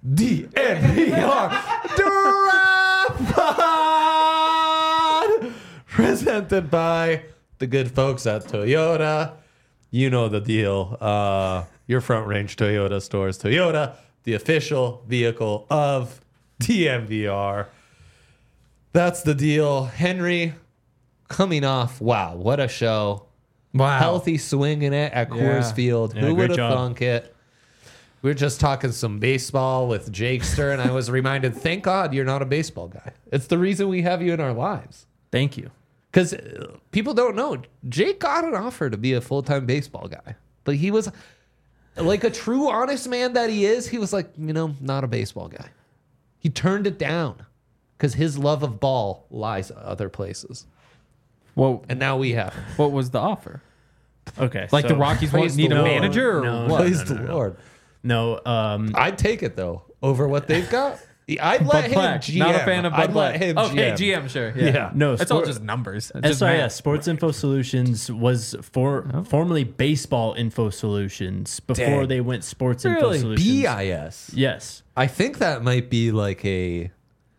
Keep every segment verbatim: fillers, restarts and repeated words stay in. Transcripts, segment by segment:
D N V R Draft Pod, presented by the good folks at Toyota. You know the deal. Uh, your Front Range Toyota stores. Toyota, the official vehicle of D N V R. That's the deal. Henry, coming off. Wow, what a show. Wow. Healthy swinging it at Yeah. Coors Field. Yeah, Who great would have job. thunk it? We were just talking some baseball with Jakester, and I was reminded, thank God you're not a baseball guy. It's the reason we have you in our lives. Thank you. Because people don't know. Jake got an offer to be a full-time baseball guy. But he was, like a true honest man that he is, he was like, you know, not a baseball guy. He turned it down because his love of ball lies other places. Well, And now we have him. what was the offer? Okay. Like so- the Rockies Praise want need the a Lord. manager or No, what? no, Praise no, the no. Lord. No, um, I'd take it, though, over what they've got. I'd Bud let him Black. G M. Not a fan of Bud I'd let Black. him Okay, G G M. M, sure. Yeah. Yeah. no. It's all sport- just numbers. It's just S I S, math. Sports Info Solutions, was for formerly Baseball Info Solutions before Dang. they went Sports Info Really? Solutions. B I S. Yes. I think that might be like a,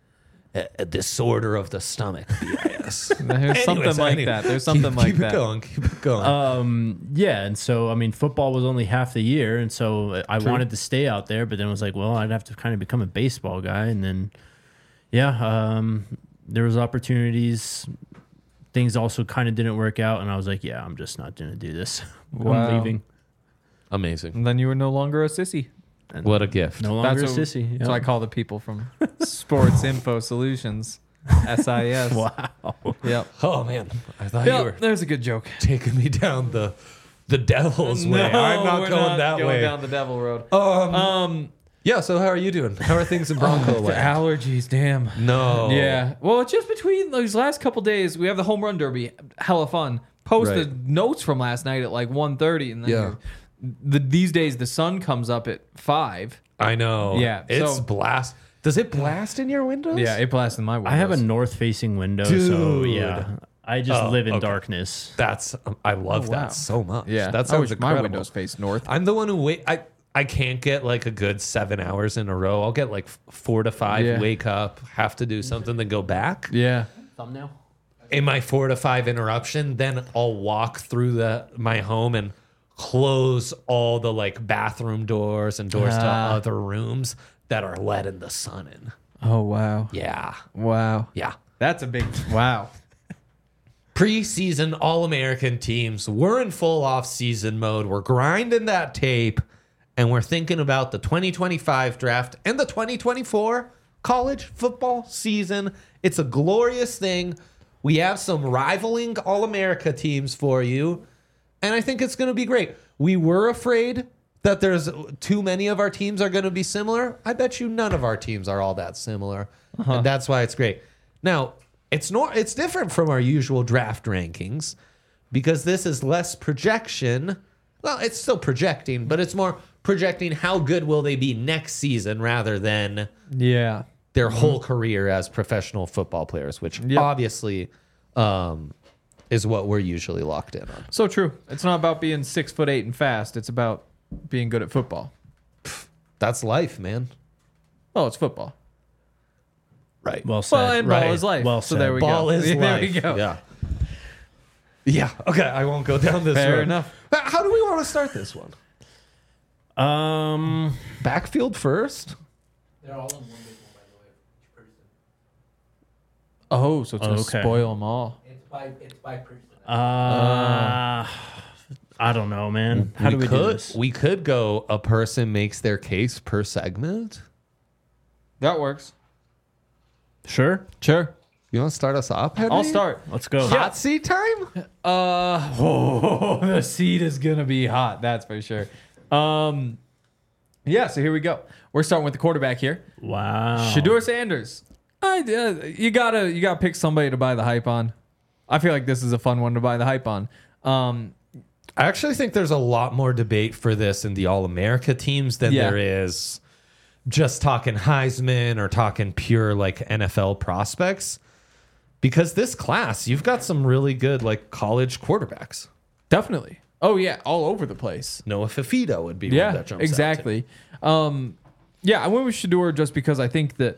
a, a disorder of the stomach. B I S. There's something like anyway, that. There's something keep, like keep that. Keep it going. Keep it going. Um, yeah, and so I mean, football was only half the year, and so I wanted to stay out there, but then it was like, well, I'd have to kind of become a baseball guy, and then, yeah, um, there was opportunities. Things also kind of didn't work out, and I was like, yeah, I'm just not gonna do this. Wow. I'm leaving. Amazing. And then you were no longer a sissy. And What a gift. no longer That's a what, sissy. That's Yep. what I call the people from Sports Info Solutions, S I S. Wow. Yep. Oh man, I thought you Yep. were There's a good joke. taking me down the the devil's way. I'm not we're going not that going way. down the devil road. Um, Um, yeah. So how are you doing? How are things in Bronco the land? allergies, damn. No. Yeah. Well, just between those last couple days, we have the home run derby. Hella fun. Posted Right. notes from last night at like one thirty, and then Yeah. you're- the these days the sun comes up at five. I know. Yeah, It's so- blast. Does it blast in your windows? Yeah, it blasted in my windows. I have a north-facing window, so Dude. yeah, I just Oh, live in okay. darkness. That's. Um, I love Oh, wow. that so much. yeah. That I sounds wish incredible. my windows face north. I'm the one who wait. I I can't get like a good seven hours in a row. I'll get like f- four to five. Yeah. Wake up, have to do something, then go back. Yeah. Thumbnail. In my four to five interruption, then I'll walk through the my home and close all the like bathroom doors and doors to Ah. other rooms that are letting the sun in. Oh wow. Yeah, Wow. yeah. That's a big wow. Preseason All-American teams. We're in full off-season mode. We're grinding that tape, and we're thinking about the twenty twenty-five draft and the twenty twenty-four college football season. It's a glorious thing. We have some rivaling All-America teams for you, and I think it's going to be great. We were afraid that there's too many of our teams are going to be similar. I bet you none of our teams are all that similar, and that's why it's great. Now, it's not. It's different from our usual draft rankings because this is less projection. Well, it's still projecting, but it's more projecting how good will they be next season rather than Yeah. their whole career as professional football players, which Yep. obviously um, is what we're usually locked in on. So true. It's not about being six foot eight and fast. It's about being good at football. That's life, man. Oh, it's football. Right. Well said. Well, and ball Right. is life. Well so said. there we Ball go. is there life. we go. Yeah. Yeah. Okay. I won't go down this Fair road. enough. How do we want to start this one? Um, Backfield first? They're all in one big one, by the way. Each person. Oh, so it's gonna Okay. spoil them all. It's by it's by person. uh, I don't know, man. How we do we could, do this? We could go a person makes their case per segment. That works. Sure. Sure. You want to start us off, Henry? I'll start. Let's go. Hot seat time? Uh, oh, the seat is gonna be hot. That's for sure. Um, yeah. So here we go. We're starting with the quarterback here, Wow. Shedeur Sanders. I, uh, you gotta you gotta pick somebody to buy the hype on. I feel like this is a fun one to buy the hype on. Um, I actually think there's a lot more debate for this in the All-America teams than Yeah. there is just talking Heisman or talking pure like N F L prospects. Because this class, you've got some really good like college quarterbacks. definitely. Oh yeah, all over the place. Noah Fifita would be one Yeah, that jumps out to me. exactly. Um, Yeah, I went with Shador just because I think that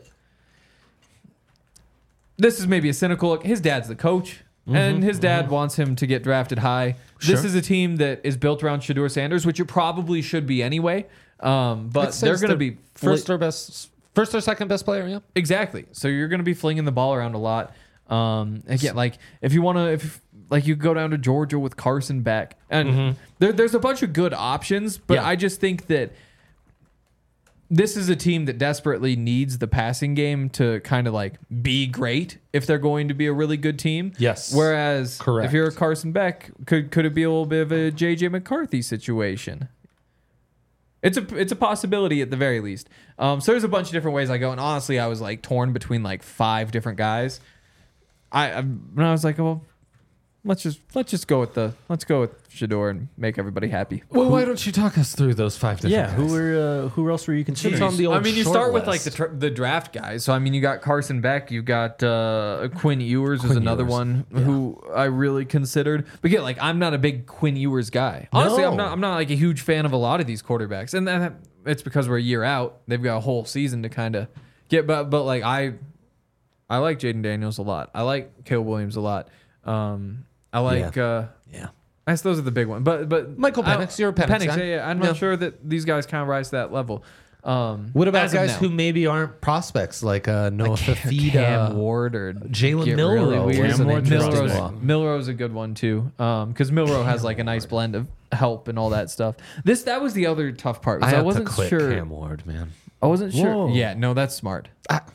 this is maybe a cynical look. His dad's the coach, mm-hmm, and his dad mm-hmm. wants him to get drafted high. Sure. This is a team that is built around Shador Sanders, which it probably should be anyway. Um, but they're going to be first or best, first or second best player. Yeah, exactly. So you're going to be flinging the ball around a lot. Um, again, like if you want to, if like you go down to Georgia with Carson Beck, and mm-hmm. there, there's a bunch of good options, but yeah. I just think that this is a team that desperately needs the passing game to kind of like be great if they're going to be a really good team. Yes. Whereas Correct. if you're a Carson Beck, could could it be a little bit of a J J McCarthy situation? It's a it's a possibility at the very least. Um, so there's a bunch of different ways I go, and honestly, I was like torn between like five different guys. I, I when I was like, well, let's just let's just go with the let's go with Shador and make everybody happy. Well, why don't you talk us through those five different Yeah, guys? who were uh, who else were you considering? on the old I mean, you short start with like list. the tr- the draft guys. So I mean, you got Carson Beck, you got uh, Quinn Ewers is Quinn another Ewers. one Yeah. who I really considered. But yeah, like I'm not a big Quinn Ewers guy. Honestly, No. I'm not. I'm not like a huge fan of a lot of these quarterbacks, and that, it's because we're a year out. They've got a whole season to kind of get. But but like I, I like Jaden Daniels a lot. I like Caleb Williams a lot. Um, I like. Yeah. Uh, Yeah. I guess those are the big ones. But but Michael I- Penix, you're a Penix guy. Yeah, yeah. I'm Yeah. not sure that these guys kind of rise to that level. Um, What about as of guys now. who maybe aren't prospects like uh, Noah Fafita, Cam Ward or Jalen get Milroe? really weird. was an Cam Ward's interesting Milroe's, one. Milroe's a good one too, because Milroe has like a nice blend of help and all that stuff. This that was the other tough part. I was I, had wasn't to quit sure. Cam Ward, man. I wasn't sure. Whoa. Yeah, no, that's smart.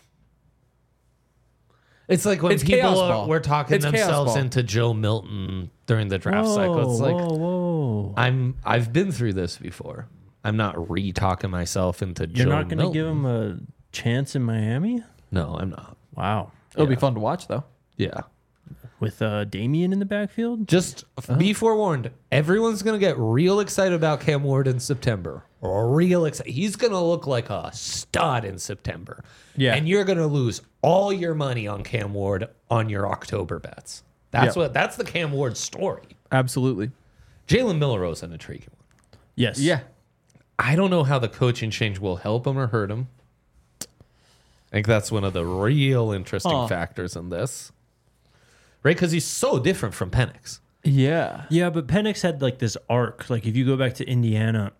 It's like when It's chaos people are, ball. were talking It's chaos themselves ball. into Joe Milton during the draft whoa, cycle. It's like whoa, whoa! I'm I've been through this before. I'm not re-talking myself into You're Joe not going to Milton. give him a chance in Miami? No, I'm not. Wow. It'll be Yeah. fun to watch though. Yeah. With uh, Damien in the backfield? Just be forewarned. Everyone's going to get real excited about Cam Ward in September. Real excited. He's going to look like a stud in September. Yeah. And you're going to lose all your money on Cam Ward on your October bets. That's Yeah. what that's the Cam Ward story. Absolutely. Jalen Milroe's an intriguing one. Yes. Yeah. I don't know how the coaching change will help him or hurt him. I think that's one of the real interesting Huh. factors in this. Right? Because he's so different from Penix. Yeah. Yeah, but Penix had like this arc. Like if you go back to Indiana,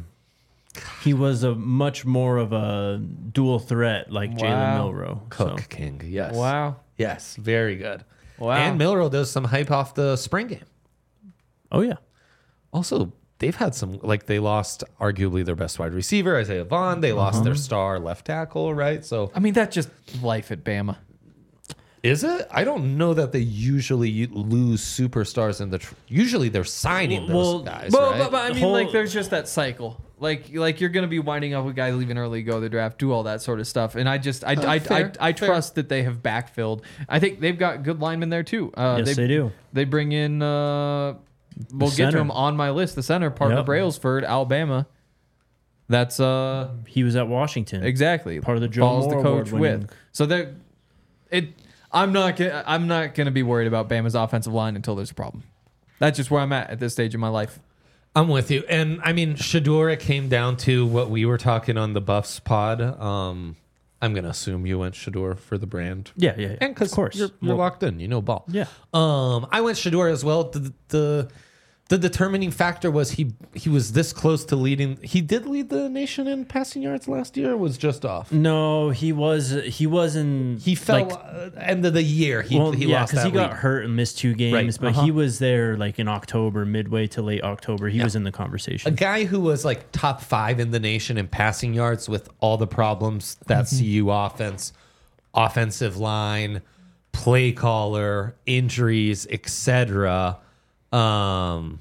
he was a much more of a dual threat like Wow. Jalen Milroe. Cook So, King, yes. Wow. Yes, very good. Wow. And Milroe does some hype off the spring game. oh yeah. Also, they've had some, like they lost arguably their best wide receiver, Isaiah Vaughn. They lost their star left tackle, right? So I mean, that's just life at Bama. is it? I don't know that they usually lose superstars in the. Tr- usually they're signing those Well, guys, But, right? but, but I mean, Whole- like, there's just that cycle. Like, like you're gonna be winding up with guys leaving early, go to the draft, do all that sort of stuff. And I just, I, I, fair, I, I fair. trust that they have backfilled. I think they've got good linemen there too. Uh, Yes, they do. They bring in. Uh, we'll get to center. him on my list. The center, Parker Yep. Brailsford, Alabama. That's uh He was at Washington. exactly Part of the Joe Follows Moore the coach Award-winning- with. So they it. I'm not. Gonna, I'm not going to be worried about Bama's offensive line until there's a problem. That's just where I'm at at this stage in my life. I'm with you. And I mean, Shador, it came down to what we were talking on the Buffs pod. Um, I'm going to assume you went Shador for the brand. Yeah, yeah, yeah. And because of course. you're, you're Well, locked in, you know ball. Yeah. Um, I went Shador as well. The, the the determining factor was he he was this close to leading. He did lead the nation in passing yards last year. Or was just off. No, he was he wasn't He fell like, uh, end of the year. He well, he yeah, lost because that he got lead. hurt and missed two games, Right, but uh-huh. he was there like in October, midway to late October. He Yeah. was in the A conversation. guy who was like top five in the nation in passing yards with all the problems that C U offense, offensive line, play caller, injuries, et cetera. Um,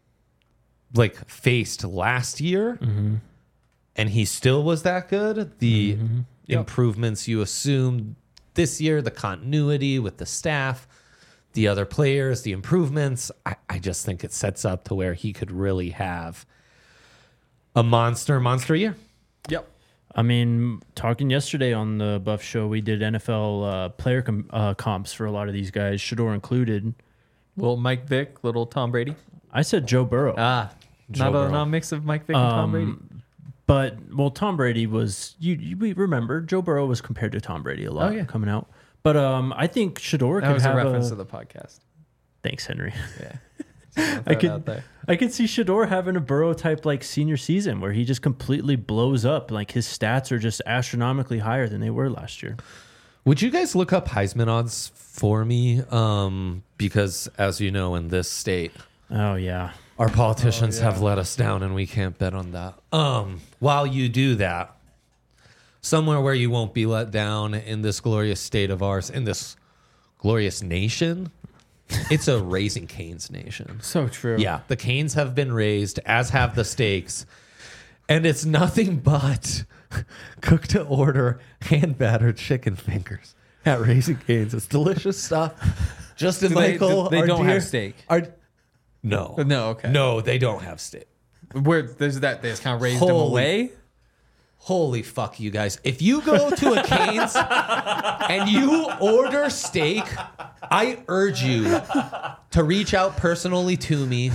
like faced last year, and he still was that good. The improvements you assumed this year, the continuity with the staff, the other players, the improvements. I, I just think it sets up to where he could really have a monster, monster year. Yep. I mean, talking yesterday on the Buff Show, we did N F L uh, player com- uh, comps for a lot of these guys, Shador included. Little Mike Vick, little Tom Brady. I said Joe Burrow. Ah, Joe not a Burrow. not a mix of Mike Vick and Tom Brady. Um, But well, Tom Brady was you. you we remember Joe Burrow was compared to Tom Brady a lot Oh, yeah. coming out. But um, I think Shador That could was a have reference a, to the podcast. Thanks, Henry. Yeah. I could I could see Shador having a Burrow type like senior season where he just completely blows up. Like his stats are just astronomically higher than they were last year. Would you guys look up Heisman odds for me? Um, because as you know, in this state, Oh yeah. our politicians Oh, yeah. have let us down, and we can't bet on that. Um, while you do that, somewhere where you won't be let down in this glorious state of ours, in this glorious nation, it's a Raising Cane's nation. So true. Yeah, the canes have been raised, as have the steaks, and it's nothing but cooked to order, hand battered chicken fingers at Raising Cane's. It's delicious stuff. Justin Do they- Michael, do- they our don't have dear- steak? our- no, No, okay. no, they don't have steak. Where there's that they just kind of raised them Holy- away. Holy fuck, you guys! If you go to a Cane's and you order steak, I urge you to reach out personally to me.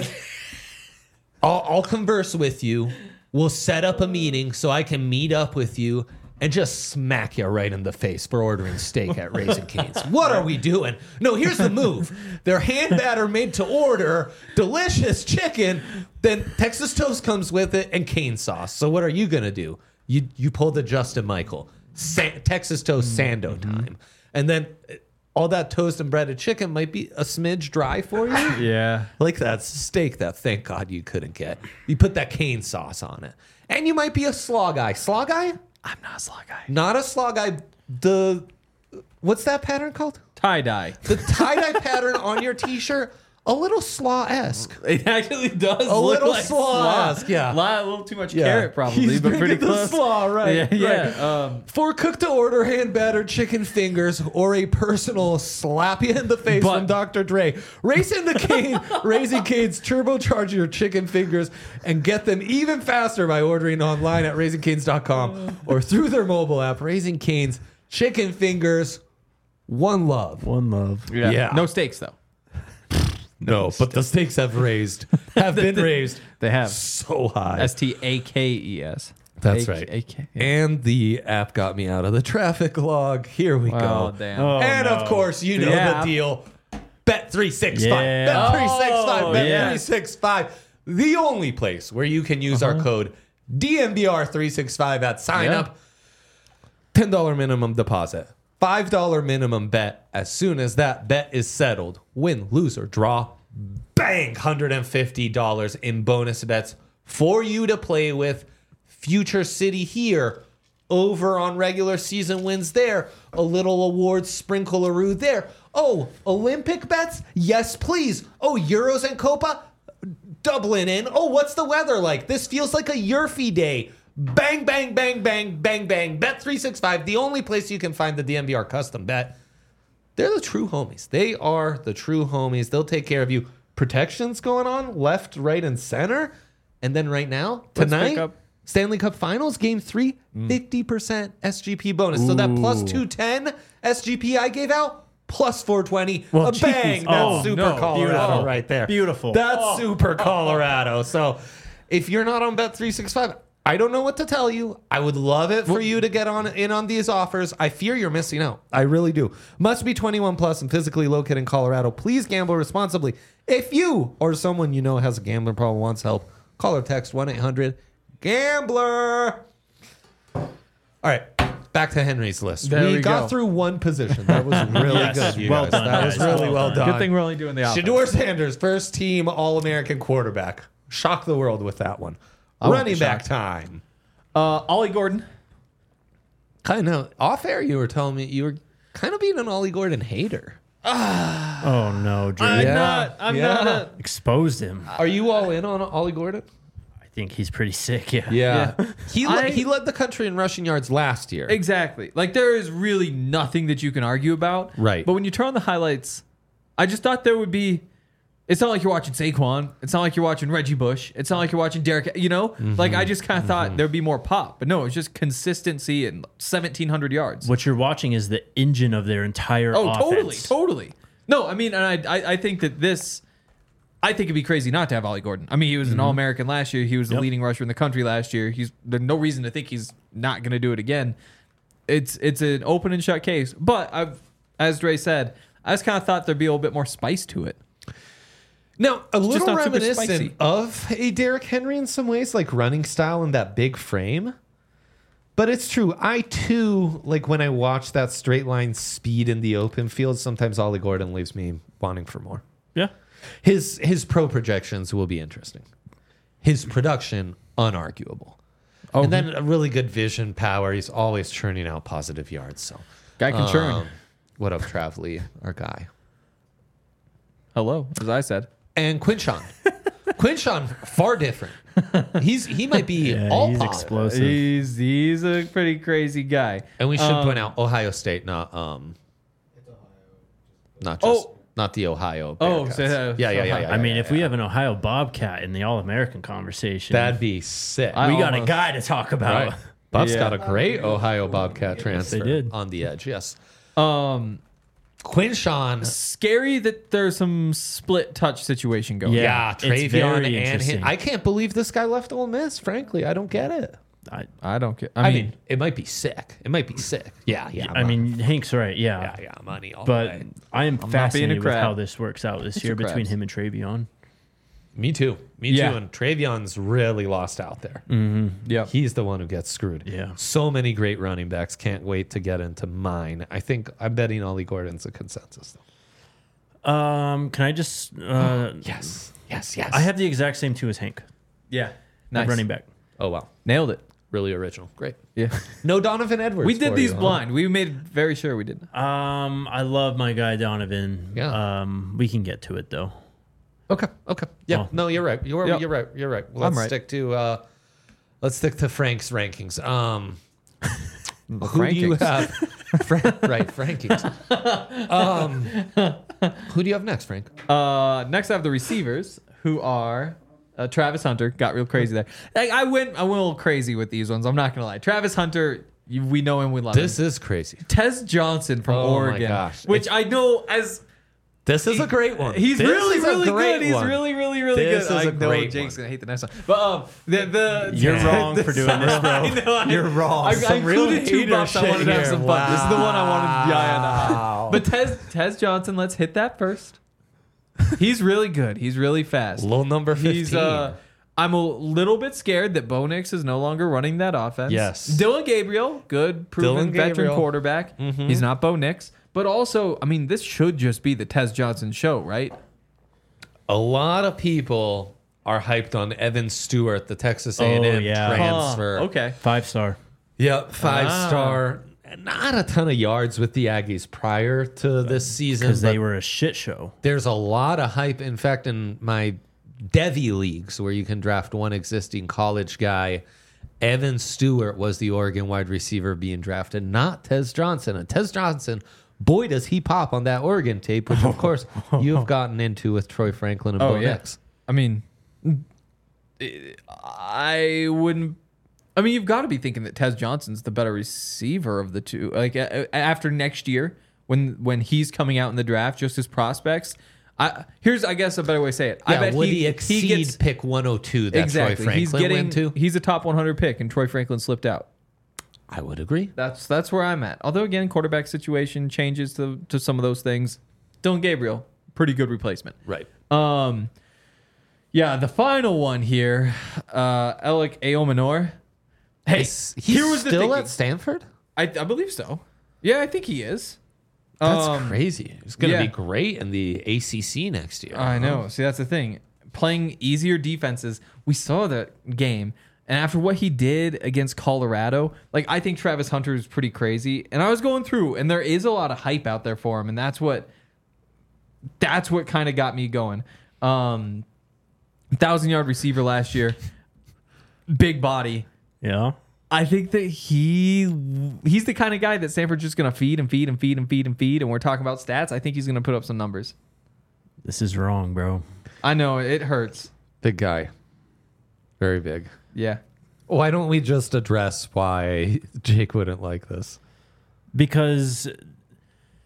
I'll, I'll converse with you. We'll set up a meeting so I can meet up with you and just smack you right in the face for ordering steak at Raising Cane's. What are we doing? No, here's the move. Their hand batter made to order, delicious chicken. Then Texas toast comes with it and cane sauce. So what are you gonna do? You you pull the Justin Michael Sa- Texas toast sando time, and then all that toast and breaded chicken might be a smidge dry for you. Yeah. Like that steak that thank God you couldn't get. You put that cane sauce on it. And you might be a slaw guy. Slaw guy? I'm not a slaw guy. Not a slaw guy. The what's that pattern called? Tie dye. The tie-dye pattern on your t-shirt, a little slaw-esque. It actually does A look little like slaw-esque, yeah. A lot- a little too much Yeah. carrot probably, He's but pretty bringing the close. slaw, right, Yeah, right. yeah. Um, For cooked to order hand battered chicken fingers or a personal slap you in the face But- from Doctor Dre, race into Cane, Raising Cane's turbocharge your chicken fingers and get them even faster by ordering online at raising canes dot com or through their mobile app. Raising Cane's chicken fingers, one love. One love. yeah. Yeah. No steaks though. No, but the stakes have raised, have been raised They have. so high. S T A K E S. That's A- right. A K, yeah. And the app got me out of the traffic log. Here we Oh, go. damn. Oh, and no. of course, you know Yeah. the deal. Bet three sixty-five. Yeah. Bet three sixty-five. Oh, Bet yeah. three sixty-five. The only place where you can use our code D M B R three sixty-five at sign Yeah. up. ten dollars minimum deposit. five dollars minimum bet. As soon as that bet is settled, win, lose, or draw, bang, one hundred fifty dollars in bonus bets for you to play with. Future City here, over on regular season wins there. A little awards sprinkle-a-roo there. Oh, Olympic bets? Yes, please. Oh, Euros and Copa? Dublin in. Oh, what's the weather like? This feels like a Yurfy day. Bang, bang, bang, bang, bang, bang. Bet three sixty-five, the only place you can find the D M V R custom bet. They're the true homies. They are the true homies. They'll take care of you. Protections going on left, right, and center. And then right now, Let's tonight, pick up- Stanley Cup Finals, Game three, fifty percent S G P bonus. So that plus two ten S G P I gave out, plus four twenty. Well, a bang. geez. That's Oh, super no. Colorado Beautiful. right there. Beautiful. That's Oh. super Colorado. So if you're not on Bet three sixty-five, I don't know what to tell you. I would love it for you to get on in on these offers. I fear you're missing out. I really do. Must be twenty-one plus and physically located in Colorado. Please gamble responsibly. If you or someone you know has a gambling problem, wants help, call or text one eight hundred gambler. All right, back to Henry's list. There we, we got go. through one position. That was really Yes, good. You well guys. done, That was guys. really Well well done. done. Good thing we're only doing the offense. Shador Sanders, first team All American quarterback. Shock the world with that one. I won't Running be back shocked. time. Uh, Ollie Gordon. Kind of off air, you were telling me you were kind of being an Ollie Gordon hater. Oh no, Drew. I'm Yeah. not. I'm Yeah. not. A, Exposed him. Are you all in on Ollie Gordon? I think he's pretty sick. Yeah. Yeah. He, le- I- he led the country in rushing yards last year. exactly. Like there is really nothing that you can argue about. Right. But when you turn on the highlights, I just thought there would be. It's not like you're watching Saquon. It's not like you're watching Reggie Bush. It's not like you're watching Derek. You know, like I just kind of thought there'd be more pop, but no, it's just consistency and seventeen hundred yards. What you're watching is the engine of their entire Oh, offense. totally, totally. No, I mean, and I, I, I think that this, I think it'd be crazy not to have Ollie Gordon. I mean, he was an All-American last year. He was the Yep. leading rusher in the country last year. He's there's no reason to think he's not going to do it again. It's it's an open and shut case. But I've, as Dre said, I just kind of thought there'd be a little bit more spice to it. Now, a just little not super reminiscent spicy. of a Derrick Henry in some ways, like running style and that big frame. But it's true. I too, like when I watch that straight line speed in the open field, sometimes Ollie Gordon leaves me wanting for more. Yeah. His his pro projections will be interesting. His production, unarguable. Oh, And then a really good vision power. He's always churning out positive yards. So guy can churn. um, what up, Trav Lee, our guy. Hello, as I said. And Quinshawn. Quinshawn, far different. He's he might be Yeah, all he's pop. explosive. He's he's a pretty crazy guy. And we should Um, point out Ohio State, not um, not just Oh. not the Ohio. Oh, Bearcats. so, uh, yeah, yeah, yeah, yeah. I mean, yeah, if yeah. we have an Ohio Bobcat in the All-American conversation, that'd be sick. I- we got a almost- guy to talk about. right. Bob's Yeah. got a great Ohio Bobcat transfer did. on the edge. Yes, Um, Quinshawn. scary that there's some split touch situation going. Yeah. Yeah, it's Travion very and him. interesting. I can't believe this guy left Ole Miss. Frankly, I don't get it. I, I don't care. I, I, mean, mean, it might be sick. It might be sick. Yeah, yeah. I mean, Hank's right. Yeah. yeah, yeah. Money all But the way. I am not being a fascinated with crab. how this works out this year your between crabs. him and Travion. Me too. Me Yeah. too. And Travion's really lost out there. yeah. He's the one who gets screwed. Yeah. So many great running backs. Can't wait to get into mine. I think I'm betting Ollie Gordon's a consensus. Though. Um, can I just? Uh, Yes. Yes. Yes. I have the exact same two as Hank. Yeah. At Nice. running back. Oh wow. Nailed it. Really original. Great. Yeah. No Donovan Edwards. we did for these you, huh? blind. We made very sure we did. Um, I love my guy Donovan. Yeah. Um, we can get to it though. Okay. Okay. Yeah. Oh. No, you're right. You're Yep. you're right. You're right. Let's I'm right. stick to uh let's stick to Frank's rankings. Um who Frankings. do you have? Frank, right, Frankings. Um who do you have next, Frank? Uh, next I have the receivers, who are uh, Travis Hunter. Got real crazy there. Like, I went, I went a little crazy with these ones. I'm not gonna lie. Travis Hunter, you, we know him, we love This him. is crazy. Tez Johnson from Oh my Oregon, gosh. which It's- I know as This is a great one. he's This really is a really great good. He's one. really really really This good. is I a know great Jake's one. gonna hate the next one, but um, the the You're wrong for doing this, bro. I know, I- You're wrong. I, I Some real included two hater buffs. I shit wanted to have here. some fun. This is the one I wanted. Yeah, yeah, Wow. no. But Tez Tez Johnson, let's hit that first. He's really good. He's really fast. Little number fifteen. He's uh I'm a little bit scared that Bo Nix is no longer running that offense. Yes. Dylan Gabriel, good, proven Dylan veteran Gabriel. quarterback. Mhm. He's not Bo Nix. But also, I mean, this should just be the Tez Johnson show, right? A lot of people are hyped on Evan Stewart, the Texas A and M Oh, yeah. transfer. Huh, okay. Five star. Yep, five Ah. star. Not a ton of yards with the Aggies prior to this season. Because they but were a shit show. there's a lot of hype. In fact, in my Devy leagues, where you can draft one existing college guy, Evan Stewart was the Oregon wide receiver being drafted, not Tez Johnson. And Tez Johnson, boy, does he pop on that Oregon tape, which of course you have gotten into with Troy Franklin and Oh, Bo yeah. Nix. I mean, I wouldn't. I mean, you've got to be thinking that Tez Johnson's the better receiver of the two. Like a- a- after next year, when when he's coming out in the draft, just his prospects. I here's, I guess, a better way to say it. I Yeah, bet would he, he, exceed he gets pick one oh two that exactly. Troy Franklin he's getting. went to? He's a top one hundred pick, and Troy Franklin slipped out. I would agree. That's that's where I'm at. Although again, quarterback situation changes to to some of those things. Dylan Gabriel, pretty good replacement. Right. Um, yeah, the final one here, uh, Alec Aomanor. Hey, Is he here was the still thinking. at Stanford? I, I believe so. Yeah, I think he is. That's Um, crazy. He's going to yeah. be great in the A C C next year. I know. See, that's the thing. Playing easier defenses. We saw that game. And after what he did against Colorado, like, I think Travis Hunter is pretty crazy. And I was going through, and there is a lot of hype out there for him. And that's what that's what kind of got me going. Um, thousand yard receiver last year, big body. Yeah. I think that he he's the kind of guy that Stanford's just gonna feed and feed and feed and feed and feed. And we're talking about stats. I think he's gonna put up some numbers. This is wrong, bro. I know it hurts. Big guy. Very big. Yeah. Why don't we just address why Jake wouldn't like this? Because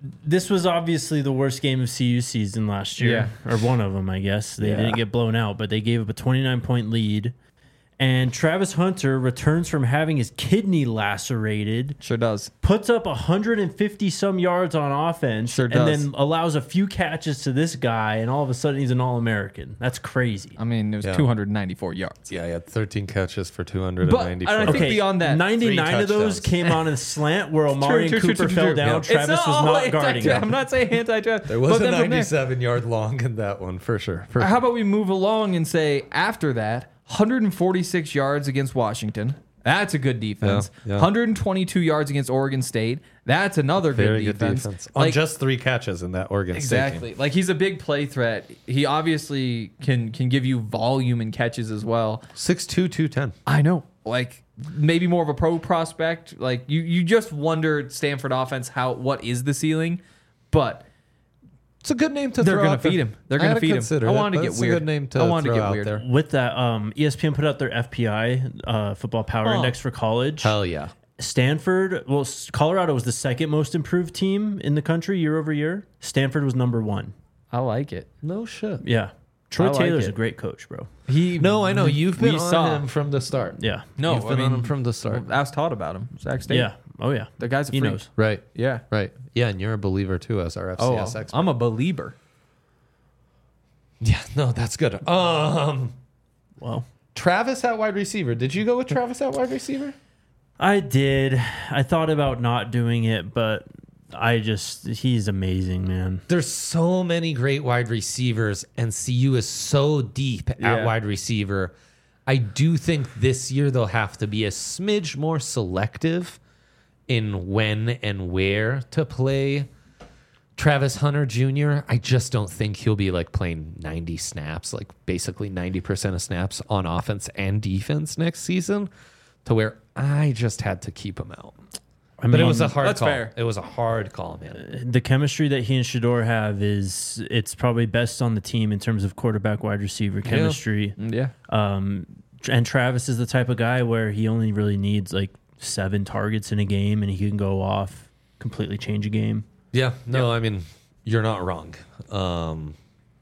this was obviously the worst game of C U season last year, or one of them, I guess. They Yeah. didn't get blown out, but they gave up a twenty-nine point lead. And Travis Hunter returns from having his kidney lacerated, Sure does. puts up one hundred fifty some yards on offense, Sure and does. then allows a few catches to this guy, and all of a sudden he's an All-American. That's crazy. I mean, it was Yeah. two hundred ninety-four yards. Yeah, he had thirteen catches for two hundred But ninety-four. I think beyond that, ninety-nine three of those touchdowns. came on a slant where Omari True, and true, Cooper true, true, fell true. down. Yeah. Travis It's was all not anti- guarding him. I'm not saying anti-draft. There was but a then from there- ninety-seven yard long in that one for sure. For How about we move along and say after that, one hundred forty-six yards against Washington. That's a good defense. Yeah, yeah. one hundred twenty-two yards against Oregon State. That's another good Very defense. good defense. On Like, just three catches in that Oregon State game. exactly. Like he's a big play threat. He obviously can can give you volume and catches as well. six two, two ten. I know. Like maybe more of a pro prospect. Like you you just wonder Stanford offense how what is the ceiling, but It's a good name to they're throw gonna out there. feed him. They're I gonna hadn't feed him. considered I it, wanted to but get it's weird. a good name to I wanted throw to get out weird. there. With that, um, E S P N put out their F P I uh, football power Oh. index for college. Hell yeah. Stanford, well, S- Colorado was the second most improved team in the country year over year. Stanford was number one. I like it. No shit. Yeah. Troy I like Taylor's it. a great coach, bro. He No, I know. You've been we on saw. him from the start. Yeah. No, You've I been mean on him from the start. Ask Todd about him. Zach State. Yeah. Oh, yeah. The guy's a He freak. knows. Right. Yeah. Right. Yeah, and you're a believer too as our F C Oh, S expert. I'm a believer. Yeah, no, that's good. Um Well, Travis at wide receiver. Did you go with Travis at wide receiver? I did. I thought about not doing it, but I just, he's amazing, man. There's so many great wide receivers, and C U is so deep at Yeah. wide receiver. I do think this year they'll have to be a smidge more selective in when and where to play Travis Hunter Junior I just don't think he'll be like playing ninety snaps, like basically ninety percent of snaps on offense and defense next season, to where I just had to keep him out. I But it mean, was a hard that's call. fair. It was a hard call, man. the chemistry that he and Shador have is, it's probably best on the team in terms of quarterback wide receiver chemistry. Yeah. Um, and Travis is the type of guy where he only really needs like seven targets in a game and he can go off, completely change a game. Yeah, no, I mean, you're not wrong. Um,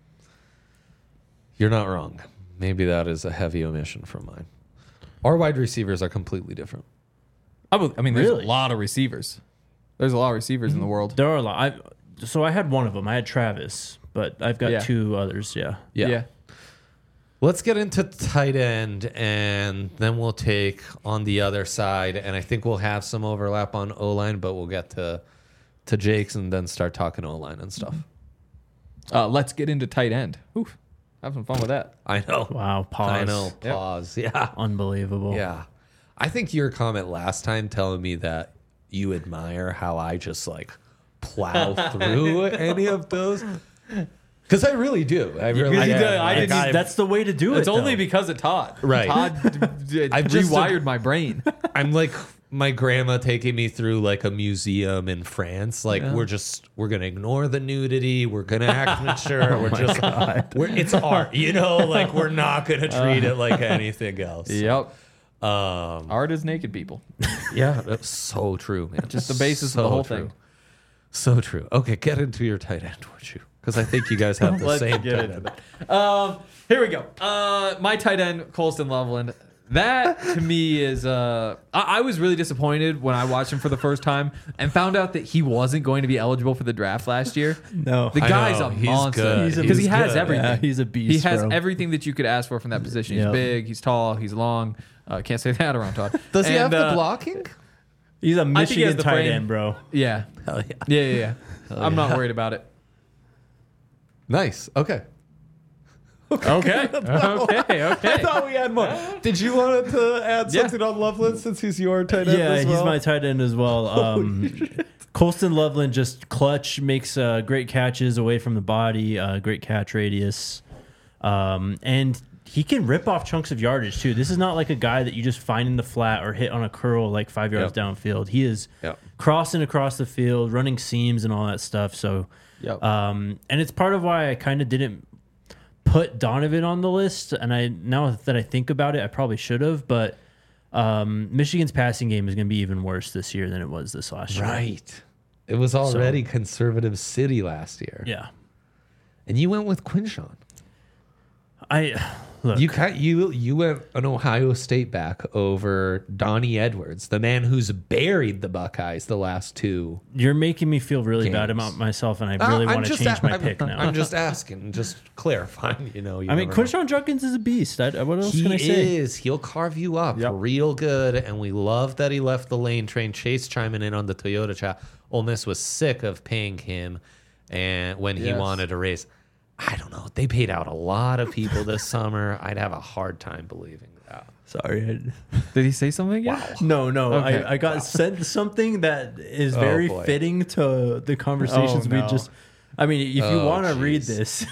you're not wrong. Maybe that is a heavy omission from mine. Our wide receivers are completely different. I, would- I mean, there's Really? a lot of receivers. There's a lot of receivers in the world. There are a lot. I, so I had one of them. I had Travis, but I've got Yeah. two others. Yeah. Yeah. Let's get into tight end, and then we'll take on the other side. And I think we'll have some overlap on O-line, but we'll get to to Jake's and then start talking O-line and stuff. Uh, let's get into tight end. Oof. Have some fun with that. I know. Wow. Pause. I know. Pause. Yeah. Unbelievable. Yeah. I think your comment last time telling me that you admire how I just like plow through any of those. Because I really do. I really Because you do. do. I It's- didn't even- that's the way to do It's it. only though. because of Todd. Right. Todd d- d- I've just- rewired my brain. I'm like my grandma taking me through like a museum in France. Like we're just we're gonna ignore the nudity. We're gonna act mature. We're just we're, it's art, you know. Like we're not gonna treat it like anything else. Yep. Um. Art is naked people. Yeah. That's so true, man. Just the basis of the whole true. thing. So true. Okay, get into your tight end, would you? Because I think you guys have the Let's same get tight into end. Um, here we go. Uh, my tight end, Colston Loveland. That to me is. Uh, I, I was really disappointed when I watched him for the first time and found out that he wasn't going to be eligible for the draft last year. No. The I guy's know. a He's monster good. He's a- because he he's has good. everything. Yeah, he's a beast, He has bro. everything that you could ask for from that position. He's Yep. big. He's tall. He's long. Uh, can't say that around Todd. Does he And, have the uh, blocking? He's a think he has Michigan the tight frame. end, bro. Yeah. Hell yeah. Yeah. Yeah. yeah. I'm not worried about it. Nice. Okay. Okay. Okay. I Okay. thought we had more. Did you want to add Yeah. something on Loveland since he's your tight end Yeah, as he's well? my tight end as well. Um, Colston Loveland just clutch, makes uh, great catches away from the body, uh, great catch radius. Um, and he can rip off chunks of yardage too. This is not like a guy that you just find in the flat or hit on a curl like five yards Yep. downfield. He is Yep. crossing across the field, running seams and all that stuff. So, Yep. um, and it's part of why I kind of didn't put Donovan on the list. And I now that I think about it, I probably should have. But um, Michigan's passing game is going to be even worse this year than it was this last year. Right. It was already conservative city last year. Yeah. And you went with Quinshawn. I look. You ki- you you went an Ohio State back over Donnie Edwards, the man who's buried the Buckeyes the last two. You're making me feel really bad Games. about myself, and I Uh, really I'm want to just change a- my I'm, pick now. I'm just asking, just clarifying. You know, you I mean, never know. Quinshon Judkins is a beast. I, what else He can I say? is. He'll carve you up Yep. real good, and we love that he left the lane train. Chase chiming in on the Toyota chat. Ole Miss was sick of paying him, and when he Yes. wanted a raise, I don't know. They paid out a lot of people this summer. I'd have a hard time believing that. Sorry. Did he say something again? No, no. Okay. I, I got sent something that is Oh, very boy. fitting to the conversations Oh, we no. just. I mean, if you Oh, want to read jeez. this,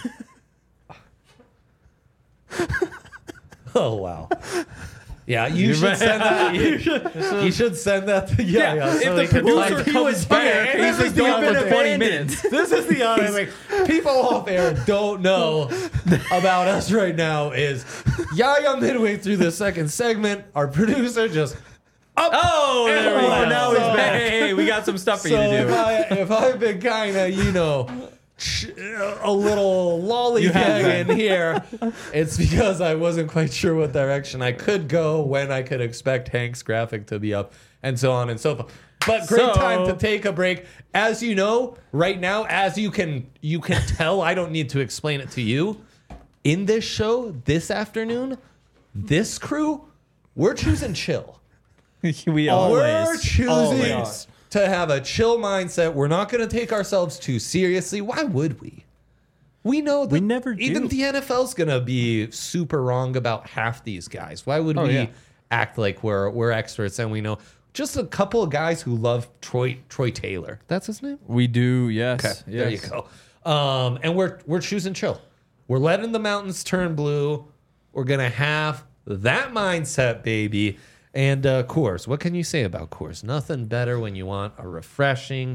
Oh wow. Yeah, you should send that. You, you should send that. To, yeah, yeah. if so the they can, producer like, comes back, and he's this is been the gone other for thing. twenty minutes. This is the other thing. People off air don't know about us right now is Yaya midway through the second segment, our producer just Oh, there we Oh, go. now he's back. Hey, hey, we got some stuff for so you to if do. I if I've been kind of you know ch- a little lollygagging here, it's because I wasn't quite sure what direction I could go, when I could expect Hank's graphic to be up, and so on and so forth. But great So- time to take a break. As you know, right now, as you can you can tell, I don't need to explain it to you. In this show this afternoon, this crew, we're choosing chill. we are. We're Always. choosing Always. to have a chill mindset. We're not going to take ourselves too seriously. Why would we? We know that We never even do. the N F L's going to be super wrong about half these guys. Why would Oh, we yeah. act like we're we're experts and we know just a couple of guys who love Troy Troy Taylor. That's his name? We do, yes. Okay, yes. there you go. Um, and we're we're choosing chill. We're letting the mountains turn blue. We're gonna have that mindset, baby. And uh, Coors, what can you say about Coors? Nothing better when you want a refreshing,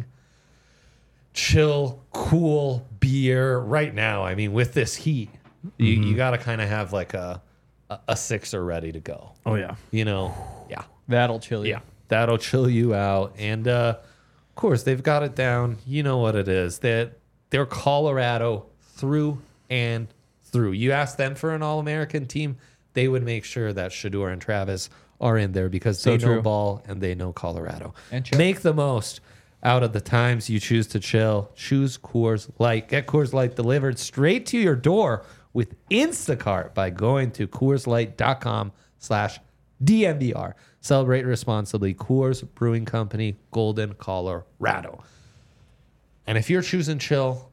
chill, cool beer. Right now, I mean, with this heat, you, you got to kind of have like a, a a sixer ready to go. oh yeah, You know, yeah. That'll chill you. Yeah, that'll chill you out. And uh, of course, they've got it down. You know what it is. That they're Colorado through and through. You ask them for an All-American team, they would make sure that Shador and Travis are in there because So they know true. ball and they know Colorado. And chill. Make the most out of the times you choose to chill. Choose Coors Light. Get Coors Light delivered straight to your door with Instacart by going to CoorsLight.com slash DNVR. Celebrate responsibly. Coors Brewing Company, Golden, Colorado. And if you're choosing chill,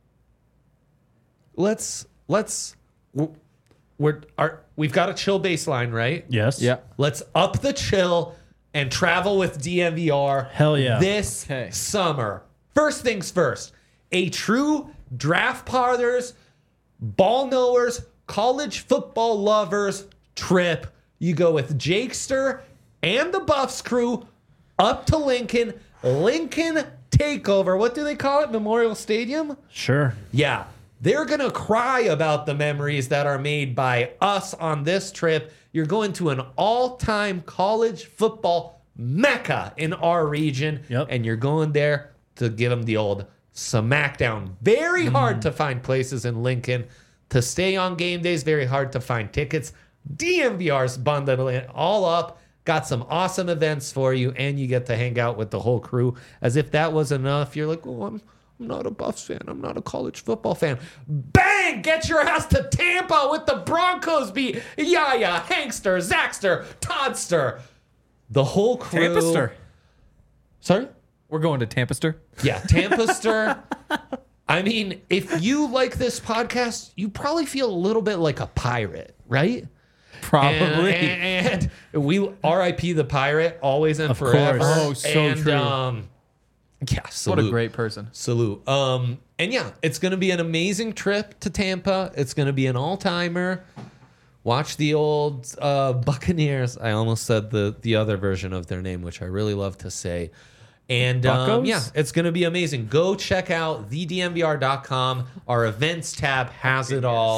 let's let's we're, we're our, we've got a chill baseline, right? yes, Yeah. Let's up the chill and travel with D N V R. Hell yeah. This Okay. summer. First things first. A true draft parlors, ball knowers, college football lovers trip. You go with Jakester and the Buffs crew up to Lincoln. Lincoln Takeover. What do they call it? Memorial Stadium? Sure. Yeah. They're going to cry about the memories that are made by us on this trip. You're going to an all-time college football mecca in our region. Yep. And you're going there to give them the old smackdown. Very hard to find places in Lincoln to stay on game days. Very hard to find tickets. D M V R's bundling it all up. Got some awesome events for you, and you get to hang out with the whole crew. As if that was enough, you're like, oh, I'm, I'm not a Buffs fan. I'm not a college football fan. Bang! Get your ass to Tampa with the Broncos beat. Yaya, Hankster, Zaxter, Toddster. The whole crew. Tampaster. Sorry? We're going to Tampaster. Yeah, Tampaster. I mean, if you like this podcast, you probably feel a little bit like a pirate, right? Probably. And, and we R I P the pirate, always and Of forever. course. Oh, so and, true. Um, yeah, what salute. a great person. Salute. Um, and yeah, it's going to be an amazing trip to Tampa. It's going to be an all-timer. Watch the old uh, Buccaneers. I almost said the the other version of their name, which I really love to say. And um, Buccos? yeah, it's going to be amazing. Go check out the D M V R dot com. Our events tab has it all.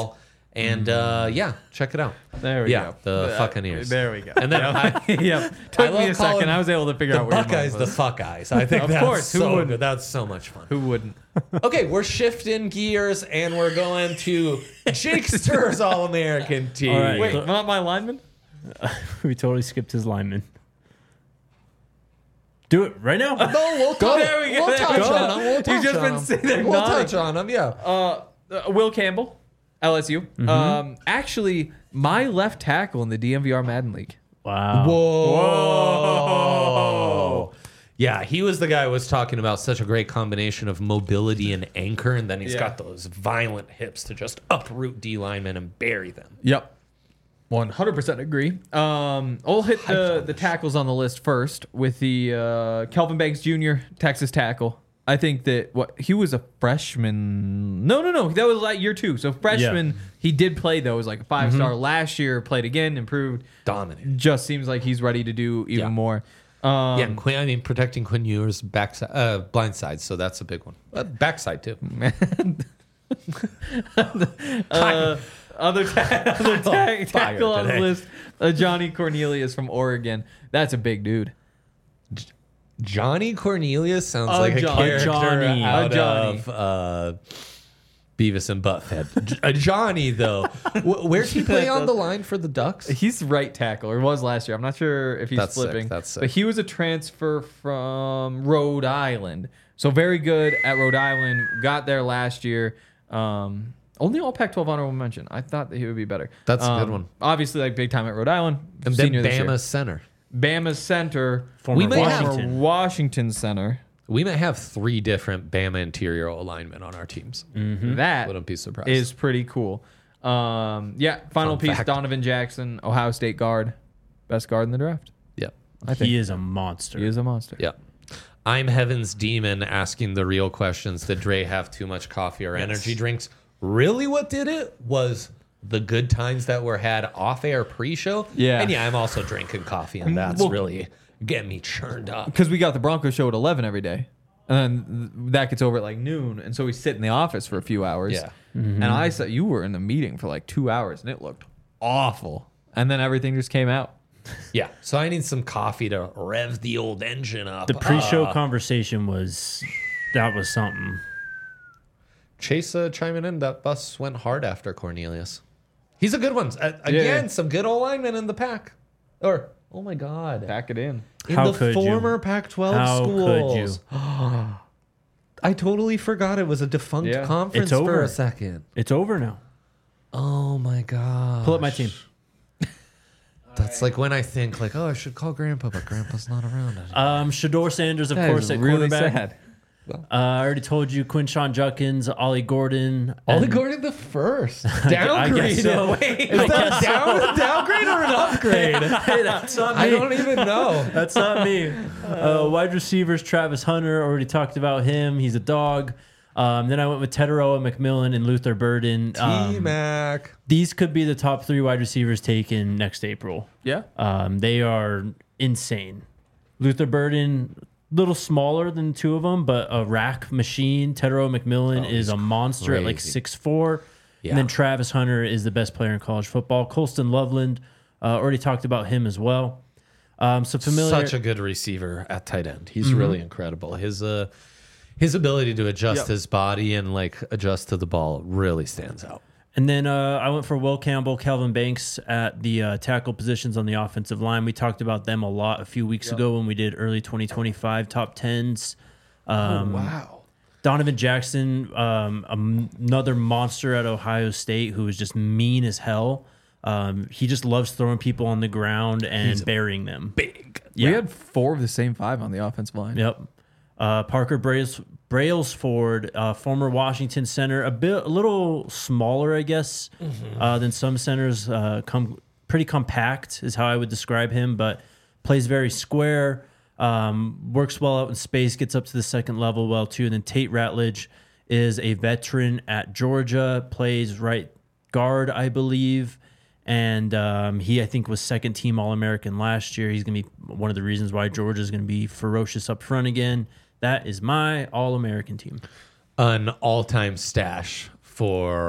And uh, yeah, check it out. There we yeah, go. the Uh, fucking ears. There we go. And then I, yep. I Took love me a second. calling I was able to figure the out where your Buckeyes mind the was. fuck eyes. I think Of that's course, who so wouldn't? good. That's so much fun. Who wouldn't? Okay, we're shifting gears and we're going to Jakester's All-American team. All right. Wait, not my lineman? We totally skipped his lineman. Do it right now. No, we'll, Go. touch, There we go. we'll There touch we go. on him. We'll You've touch just on been him. sitting there We'll nodding. touch on him, yeah. Uh, uh, Will Campbell, L S U. Mm-hmm. Um, actually, my left tackle in the D M V R Madden League. Wow. Whoa. Yeah, he was the guy who was talking about such a great combination of mobility and anchor, and then he's Yeah. got those violent hips to just uproot D linemen and bury them. Yep. one hundred percent agree. Um, I'll hit the, the tackles on the list first with the uh, Kelvin Banks Junior Texas tackle. I think that what he was a freshman. No, no, no. That was like year two. So freshman, he did play though. It was like a five star last year. Played again, improved. Dominant. Just seems like he's ready to do even Yeah. more. Um, Yeah, and Quinn, I mean, protecting Quinn Ewers' backside, uh, blind side, so that's a big one. Uh, backside, too. uh, other ta- other ta- tackle on the today. list, uh, Johnny Cornelius from Oregon. That's a big dude. Johnny Cornelius sounds A like a Johnny. character Johnny. out A Johnny. of uh, Beavis and Butthead. J- a Johnny, though. Wh- Where's he play on the line for the Ducks? He's right tackle, or was last year. I'm not sure if he's That's sick, flipping. that's sick. But he was a transfer from Rhode Island. So very good at Rhode Island. Got there last year. Um, only all Pac twelve honorable mention. I thought that he would be better. That's a Um, good one. Obviously, like big time at Rhode Island. And then senior this year. Bama's center. Bama's center. Former We may have- Former Washington. Washington center. We might have three different Bama interior alignment on our teams. That Wouldn't be surprised. is pretty cool. Um, yeah, final Fun piece, fact. Donovan Jackson, Ohio State guard. Best guard in the draft. Yep. I think He is a monster. he is a monster. Yep. I'm Heaven's Demon asking the real questions. Did Dre have too much coffee or energy drinks? Really, what did it was the good times that were had off air pre show. Yeah. And yeah, I'm also drinking coffee, and that's Well- really getting me churned up. Because we got the Broncos show at eleven every day. And then th- that gets over at like noon. And so we sit in the office for a few hours. Yeah. And I said, you were in the meeting for like two hours and it looked awful. And then everything just came out. Yeah. So I need some coffee to rev the old engine up. The pre-show Uh, conversation was that was something. Chase uh, chiming in. That bus went hard after Cornelius. He's a good one. Uh, again, Yeah. some good old linemen in the pack. Or, oh my God. Pack it in. in How the could you? former Pac twelve How schools. could you? I totally forgot it was a defunct Yeah. conference It's for over. a second. It's over now. Oh my God. Pull up my team. That's like when I think like, oh, I should call Grandpa, but Grandpa's not around. Um, Shador Sanders, of That course, is at really quarterback. sad. Uh, I already told you Quinshawn Judkins, Ollie Gordon. Ollie and- Gordon the first. I Downgraded. guess so. Wait, is that down, downgrade or an upgrade? Hey, that's not me. I don't even know. That's not me. Uh, wide receivers, Travis Hunter, already talked about him. He's a dog. Um, then I went with Teteroa, McMillan, and Luther Burden. Um, T-Mac. these could be the top three wide receivers taken next April. Yeah. Um, they are insane. Luther Burden, little smaller than two of them, but a rack machine. Teteroa McMillan Oh, is he's a monster at like crazy. six four. Yeah. And then Travis Hunter is the best player in college football. Colston Loveland, uh, already talked about him as well. Um, so familiar. Such a good receiver at tight end. He's really incredible. His uh, his ability to adjust Yep. his body and like adjust to the ball really stands out. And then uh, I went for Will Campbell, Calvin Banks at the uh, tackle positions on the offensive line. We talked about them a lot a few weeks ago when we did early twenty twenty-five top tens. Um, Wow. Donovan Jackson, um, um, another monster at Ohio State who is just mean as hell. Um, he just loves throwing people on the ground and burying them. Big. Yeah. We had four of the same five on the offensive line. Yep. Uh, Parker Brails, Brailsford, uh, former Washington center, a bit, a little smaller, I guess, uh, than some centers. Uh, come pretty compact is how I would describe him, but plays very square. Um, works well out in space, gets up to the second level well too. And then Tate Ratledge is a veteran at Georgia, plays right guard, I believe. And um, he, I think, was second team All American last year. He's going to be one of the reasons why Georgia is going to be ferocious up front again. That is my All American team. An all-time stash for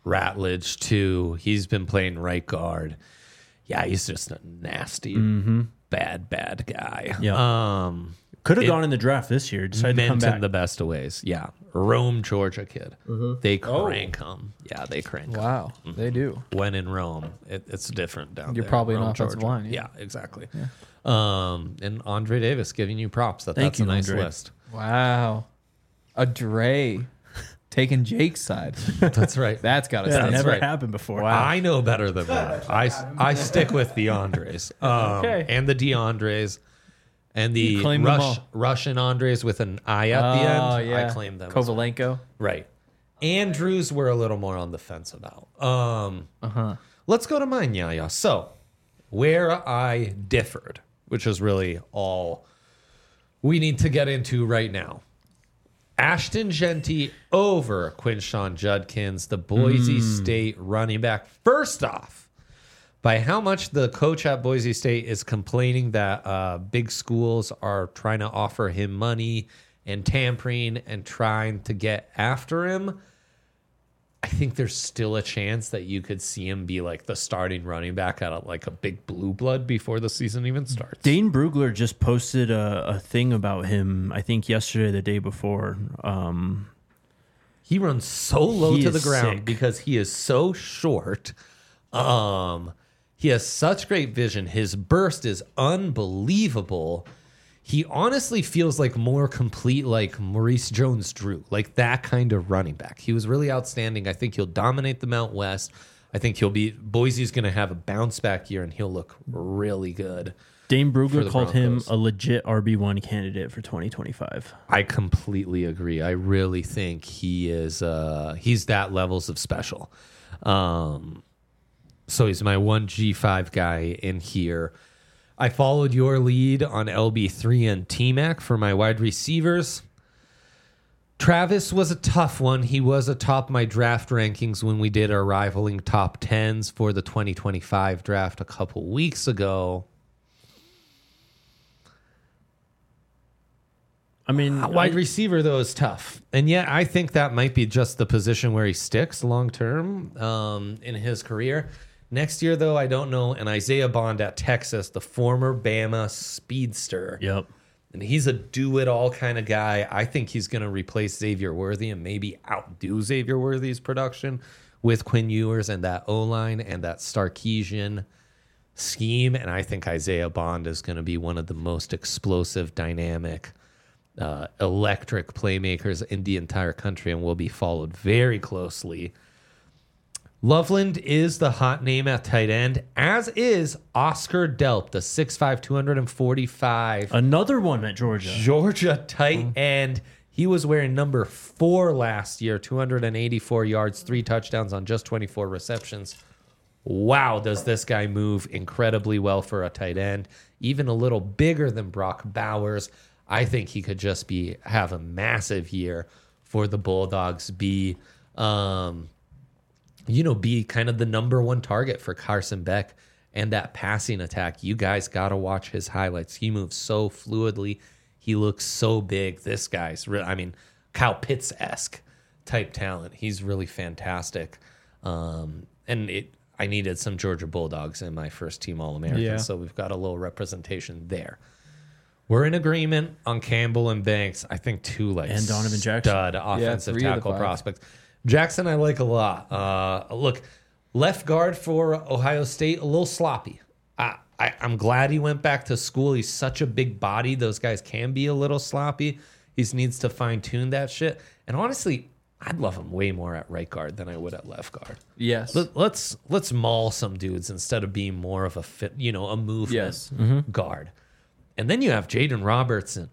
Ratledge too. He's been playing right guard. Yeah, he's just a nasty, bad, bad guy. Yeah. Um, Could have It- gone in the draft this year. Decided to come meant in back. the best of ways. Yeah, Rome, Georgia kid. They crank him. Yeah, they crank 'em. Wow, they do. When in Rome, it, it's different down You're there. probably an Rome, offensive Georgia. line, Yeah, yeah. exactly. Um, and Andre Davis giving you props. That Thank that's you, a nice Andre. list. Wow, a Dre taking Jake's side. That's right. That's got to Yeah, stop. never right. happened before. I know better than that. I, I stick with the Andres um, Okay. and the DeAndres and the claim them Rush, all. Russian Andres with an I at the Oh, end. yeah. I claim them. as well. Kovalenko. Right. Andrews were a little more on the fence about. Um, Uh-huh. Let's go to mine, Yaya. So, where I differed, which is really all we need to get into right now. Ashton Genty over Quinshawn Judkins, the Boise State running back. First off, by how much the coach at Boise State is complaining that uh, big schools are trying to offer him money and tampering and trying to get after him, I think there's still a chance that you could see him be like the starting running back at a, like a big blue blood before the season even starts. Dane Brugler just posted a, a thing about him, I think yesterday or the day before. Um, He runs so low He to the is ground sick. because he is so short. Um, he has such great vision. His burst is unbelievable. He honestly feels like more complete, like Maurice Jones-Drew, like that kind of running back. He was really outstanding. I think he'll dominate the Mount West. I think he'll be Boise's going to have a bounce back year, and he'll look really good. Dane For Brugler the called him Broncos. a legit R B one candidate for twenty twenty-five. I completely agree. I really think he is. Uh, he's that levels of special. Um, so he's my one G five guy in here. I followed your lead on L B three and T-Mac for my wide receivers. Travis was a tough one. He was atop my draft rankings when we did our rivaling top tens for the twenty twenty-five draft a couple weeks ago. I mean, Uh, Wide I- receiver, though, is tough. And yet, I think that might be just the position where he sticks long term um, in his career. Next year, though, I don't know. And Isaiah Bond at Texas, the former Bama speedster. Yep. And he's a do-it-all kind of guy. I think he's going to replace Xavier Worthy and maybe outdo Xavier Worthy's production with Quinn Ewers and that O-line and that Sarkisian scheme. And I think Isaiah Bond is going to be one of the most explosive, dynamic, uh, electric playmakers in the entire country and will be followed very closely. Loveland is the hot name at tight end, as is Oscar Delp, the six five, two forty-five Another one at Georgia. Georgia tight end. He was wearing number four last year, two hundred eighty-four yards, three touchdowns on just twenty-four receptions. Wow, does this guy move incredibly well for a tight end. Even a little bigger than Brock Bowers. I think he could just be have a massive year for the Bulldogs. Be, um, you know, be kind of the number one target for Carson Beck and that passing attack. You guys got to watch his highlights. He moves so fluidly. He looks so big. This guy's real. I mean, Kyle Pitts-esque type talent. He's really fantastic. Um, and it, I needed some Georgia Bulldogs in my first team All-American, Yeah. so we've got a little representation there. We're in agreement on Campbell and Banks. I think two like And Donovan Jackson. stud offensive three of the tackle five. prospects. Jackson, I like a lot. Uh, look, left guard for Ohio State, a little sloppy. I, I, I'm glad he went back to school. He's such a big body. Those guys can be a little sloppy. He needs to fine tune that shit. And honestly, I'd love him way more at right guard than I would at left guard. Yes. Let, let's let's maul some dudes instead of being more of a fit, you know, a movement Yes. guard. And then you have Jaden Robertson.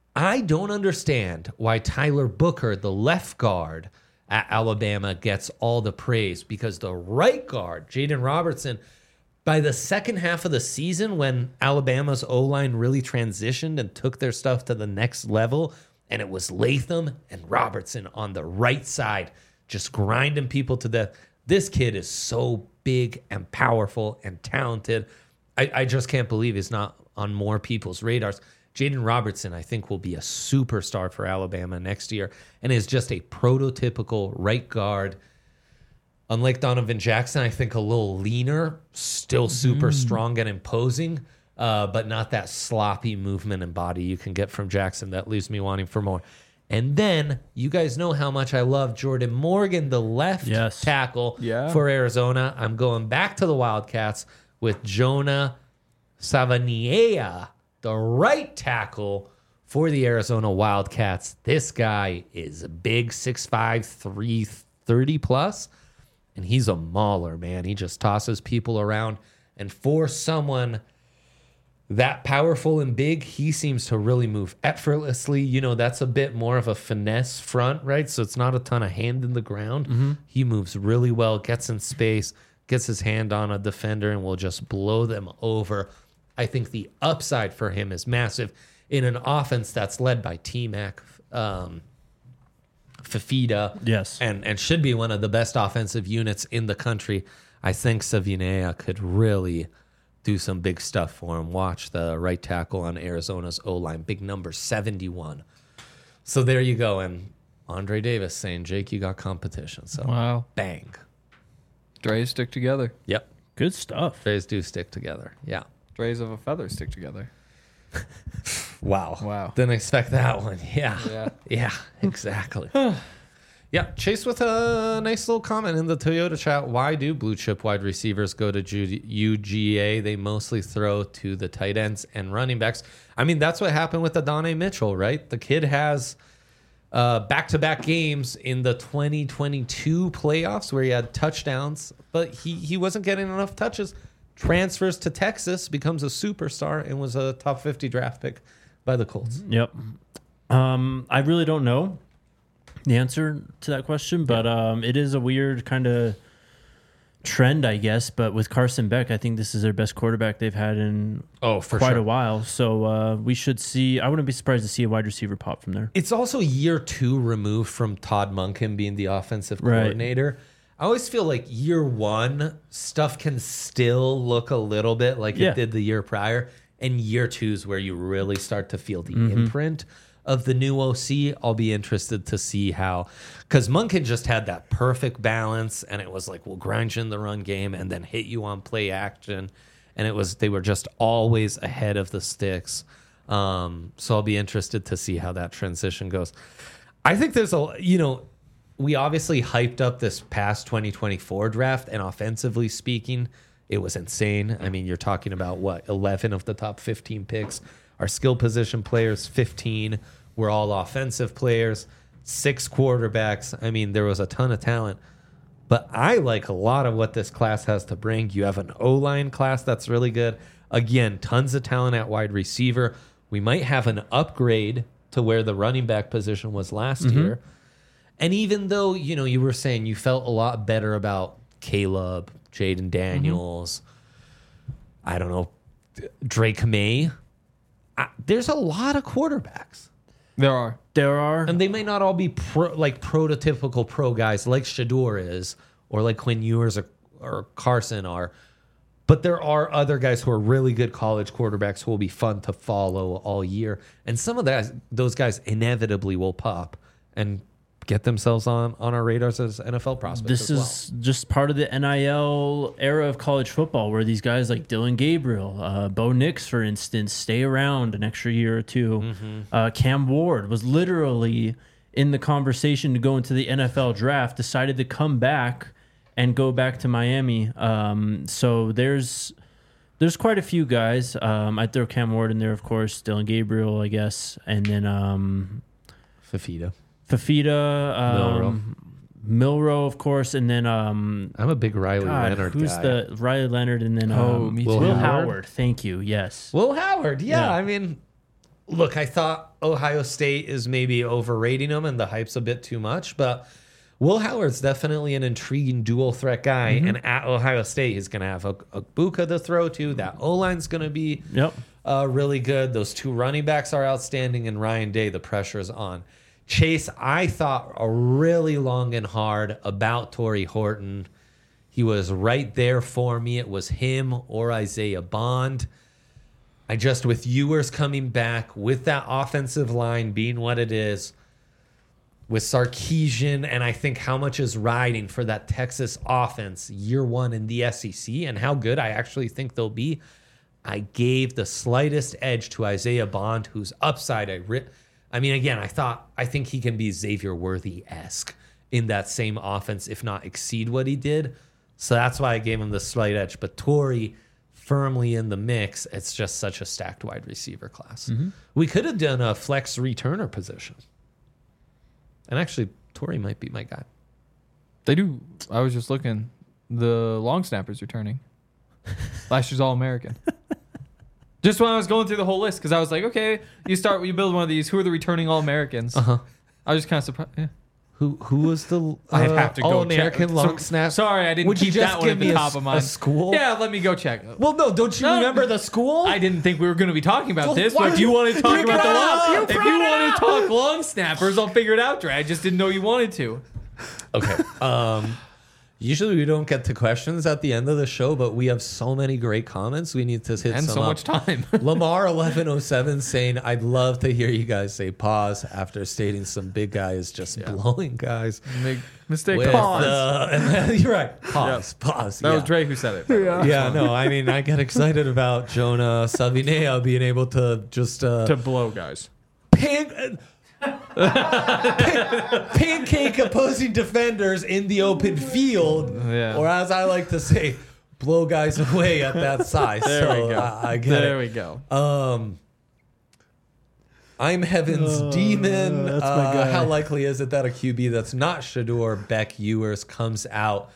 I don't understand why Tyler Booker, the left guard at Alabama, gets all the praise because the right guard, Jaden Robertson, by the second half of the season when Alabama's O-line really transitioned and took their stuff to the next level, and it was Latham and Robertson on the right side, just grinding people to death. This kid is so big and powerful and talented. I, I just can't believe he's not on more people's radars. Jaden Robertson, I think, will be a superstar for Alabama next year and is just a prototypical right guard. Unlike Donovan Jackson, I think a little leaner, still super strong and imposing, uh, but not that sloppy movement and body you can get from Jackson that leaves me wanting for more. And then you guys know how much I love Jordan Morgan, the left Yes. tackle Yeah. for Arizona. I'm going back to the Wildcats with Jonah Savanier, the right tackle for the Arizona Wildcats. This guy is a big, six five, three thirty plus. And he's a mauler, man. He just tosses people around. And for someone that powerful and big, he seems to really move effortlessly. You know, that's a bit more of a finesse front, right? So it's not a ton of hand in the ground. Mm-hmm. He moves really well, gets in space, gets his hand on a defender, and will just blow them over. I think the upside for him is massive in an offense that's led by T-Mac, um, Fafita, Yes. and and should be one of the best offensive units in the country. I think Savinea could really do some big stuff for him. Watch the right tackle on Arizona's O-line, big number seventy-one. So there you go. And Andre Davis saying, Jake, you got competition. So Wow. bang. Dre's stick together. Yep. Good stuff. Phase do stick together. Yeah. Dre's of a feather stick together. Wow. Wow. Didn't expect that one. Yeah. Yeah. Yeah, exactly. Yeah, Chase with a nice little comment in the Toyota chat. Why do blue chip wide receivers go to U G A? They mostly throw to the tight ends and running backs. I mean, that's what happened with Adonai Mitchell, right? The kid has uh, back-to-back games in the twenty twenty-two playoffs where he had touchdowns, but he, he wasn't getting enough touches. Transfers to Texas, becomes a superstar, and was a top fifty draft pick by the Colts. Yep. Um, I really don't know the answer to that question, but um, it is a weird kind of trend, I guess. But with Carson Beck, I think this is their best quarterback they've had in Oh, for quite sure. a while. So uh, we should see. I wouldn't be surprised to see a wide receiver pop from there. It's also year two removed from Todd Monken being the offensive Right. coordinator. I always feel like year one stuff can still look a little bit like Yeah. it did the year prior, and year two is where you really start to feel the Mm-hmm. imprint of the new O C. I'll be interested to see how, because Monken just had that perfect balance, and it was like, we'll grind you in the run game and then hit you on play action, and it was they were just always ahead of the sticks. Um, so I'll be interested to see how that transition goes. I think there's a, you know, we obviously hyped up this past twenty twenty-four draft, and offensively speaking, it was insane. I mean, you're talking about what, eleven of the top fifteen picks are skill position players, fifteen were all offensive players, six quarterbacks. I mean, there was a ton of talent. But I like a lot of what this class has to bring. You have an O-line class that's really good. Again, tons of talent at wide receiver. We might have an upgrade to where the running back position was last year. And even though, you know, you were saying you felt a lot better about Caleb, Jaden Daniels, I don't know, Drake May, I, there's a lot of quarterbacks. There are. There are. And they may not all be pro, like prototypical pro guys like Shador is, or like Quinn Ewers or, or Carson are. But there are other guys who are really good college quarterbacks who will be fun to follow all year. And some of that, those guys inevitably will pop and get themselves on, on our radars as N F L prospects This as well. is just part of the N I L era of college football where these guys like Dylan Gabriel, uh, Bo Nix, for instance, stay around an extra year or two. Mm-hmm. Uh, Cam Ward was literally in the conversation to go into the N F L draft, decided to come back and go back to Miami. Um, so there's there's quite a few guys. Um, I'd throw Cam Ward in there, of course, Dylan Gabriel, I guess, and then um, Fafita. Fafita, um, Milrow, of course, and then um, I'm a big Riley God, Leonard who's guy. the Riley Leonard, and then Oh, um, me Will, too. Howard. Howard. Thank you. Yes. Will Howard, yeah, Yeah. I mean, look, I thought Ohio State is maybe overrating him and the hype's a bit too much, but Will Howard's definitely an intriguing dual threat guy. Mm-hmm. And at Ohio State, he's going to have a, a Buka to throw to. That O-line's going to be Yep. uh, really good. Those two running backs are outstanding. And Ryan Day, the pressure's on. Chase, I thought a really long and hard about Torrey Horton. He was right there for me. It was him or Isaiah Bond. I just, with Ewers coming back, with that offensive line being what it is, with Sarkisian, and I think how much is riding for that Texas offense year one in the S E C and how good I actually think they'll be, I gave the slightest edge to Isaiah Bond, whose upside I ri- I mean, again, I thought I think he can be Xavier Worthy-esque in that same offense, if not exceed what he did. So that's why I gave him the slight edge. But Torrey firmly in the mix. It's just such a stacked wide receiver class. Mm-hmm. We could have done a flex returner position. And actually, Torrey might be my guy. They do. I was just looking. The long snappers returning. Last year's All American. Just when I was going through the whole list, because I was like, okay, you start, you build one of these. Who are the returning All Americans? Uh huh. I was just kind of surprised. Yeah. Who who was the uh, I'd have to go All American check. long So- snap? Sorry, I didn't Would you keep just that one give at the me a top s- of a mine. school? Yeah, let me go check. Well, no, don't you No, remember the school? I didn't think we were going to be talking about Well, this, why- but if you want to talk You about the brought it long, up. You if you want to talk long snappers, I'll figure it out, Dre. I just didn't know you wanted to. Okay. Um, usually we don't get to questions at the end of the show, but we have so many great comments. We need to hit And some so up. much time. Lamar eleven oh seven saying, I'd love to hear you guys say pause after stating some big guy is just blowing guys. Big mistake. With, Pause. uh, and then, you're right. Pause. Pause. That yeah. was Dre who said it. Yeah. Yeah, no, I mean, I get excited about Jonah Savinea being able to just uh, To blow guys. pan- pancake opposing defenders in the open field, Yeah. or as I like to say, blow guys away at that size. There so we go. I, I get there it. we go. Um, I'm Heaven's Demon. that's my Uh, guy. how likely is it that a Q B that's not Shador Beck Ewers comes out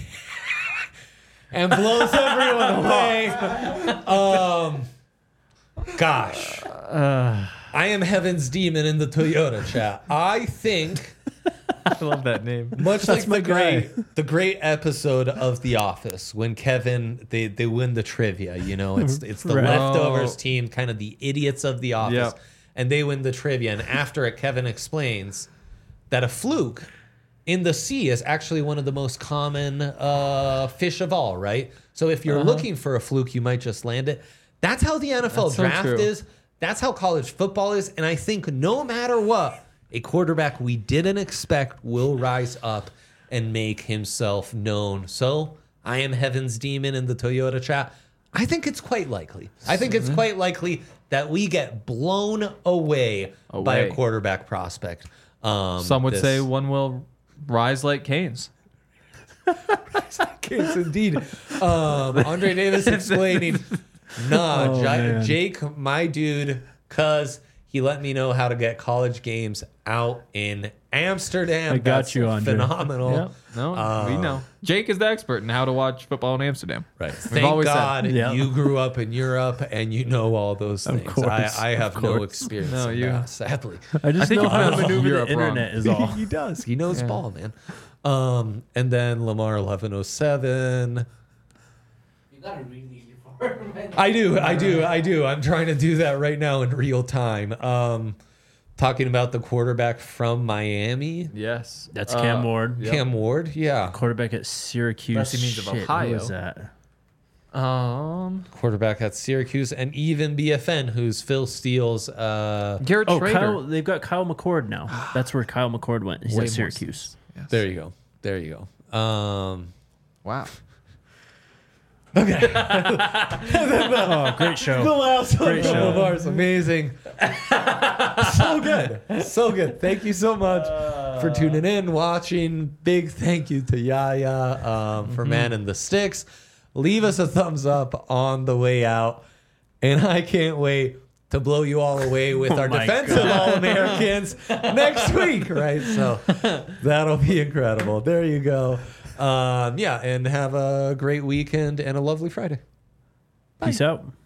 and blows everyone away? Um, gosh. Uh, I am Heaven's Demon in the Toyota chat. I think, I love that name. much like my the guy. great, the great episode of The Office when Kevin they, they win the trivia. You know, it's it's the Right. leftovers Oh. team, kind of the idiots of The Office, Yep. and they win the trivia. And after it, Kevin explains that a fluke in the sea is actually one of the most common uh, fish of all. Right. So if you're looking for a fluke, you might just land it. That's how the N F L That's so draft true. is. That's how college football is. And I think no matter what, a quarterback we didn't expect will rise up and make himself known. So I am Heaven's Demon in the Toyota chat. I think it's quite likely. I think it's quite likely that we get blown away, by a Away. quarterback prospect. Um, Some would this- say one will rise like Canes. Yes, indeed. Um, Andre Davis explaining, nah, Oh, Ja- man. Jake, my dude, cause he let me know how to get college games out in Amsterdam. I got That's you, Andre. phenomenal. Yeah. No, we know. Jake is the expert in how to watch football in Amsterdam. Right. Thank always said. God Yeah. you grew up in Europe and you know all those Of things. course, I, I have of no course. experience No, in you- that, sadly. I just I think know you how to found maneuver Europe the wrong. internet is all. he does. He knows Yeah. ball, man. Um, and then Lamar eleven oh seven. You gotta read these before. I do, I do, I do. I'm trying to do that right now in real time. Um, talking about the quarterback from Miami, Yes. That's Cam Uh, Ward, Yep. Cam Ward. Yeah, quarterback at Syracuse. That's the means of Shit, Ohio. Who was that? Um, quarterback at Syracuse, and even B F N, who's Phil Steele's. Uh, Garrett Oh, Schrader. Kyle, they've got Kyle McCord now. That's where Kyle McCord went. He's Way at more Syracuse. Yes. there you go. There you go. Um, Wow. Oh, great the show. last one Great from show. Lamar's amazing. So good. So good. Thank you so much for tuning in, watching. Big thank you to Yaya um, for Man in the Sticks. Leave us a thumbs up on the way out. And I can't wait to blow you all away with Oh our my defensive God. All-Americans next week, right? So that'll be incredible. There you go. Um, yeah, and have a great weekend and a lovely Friday. Peace out.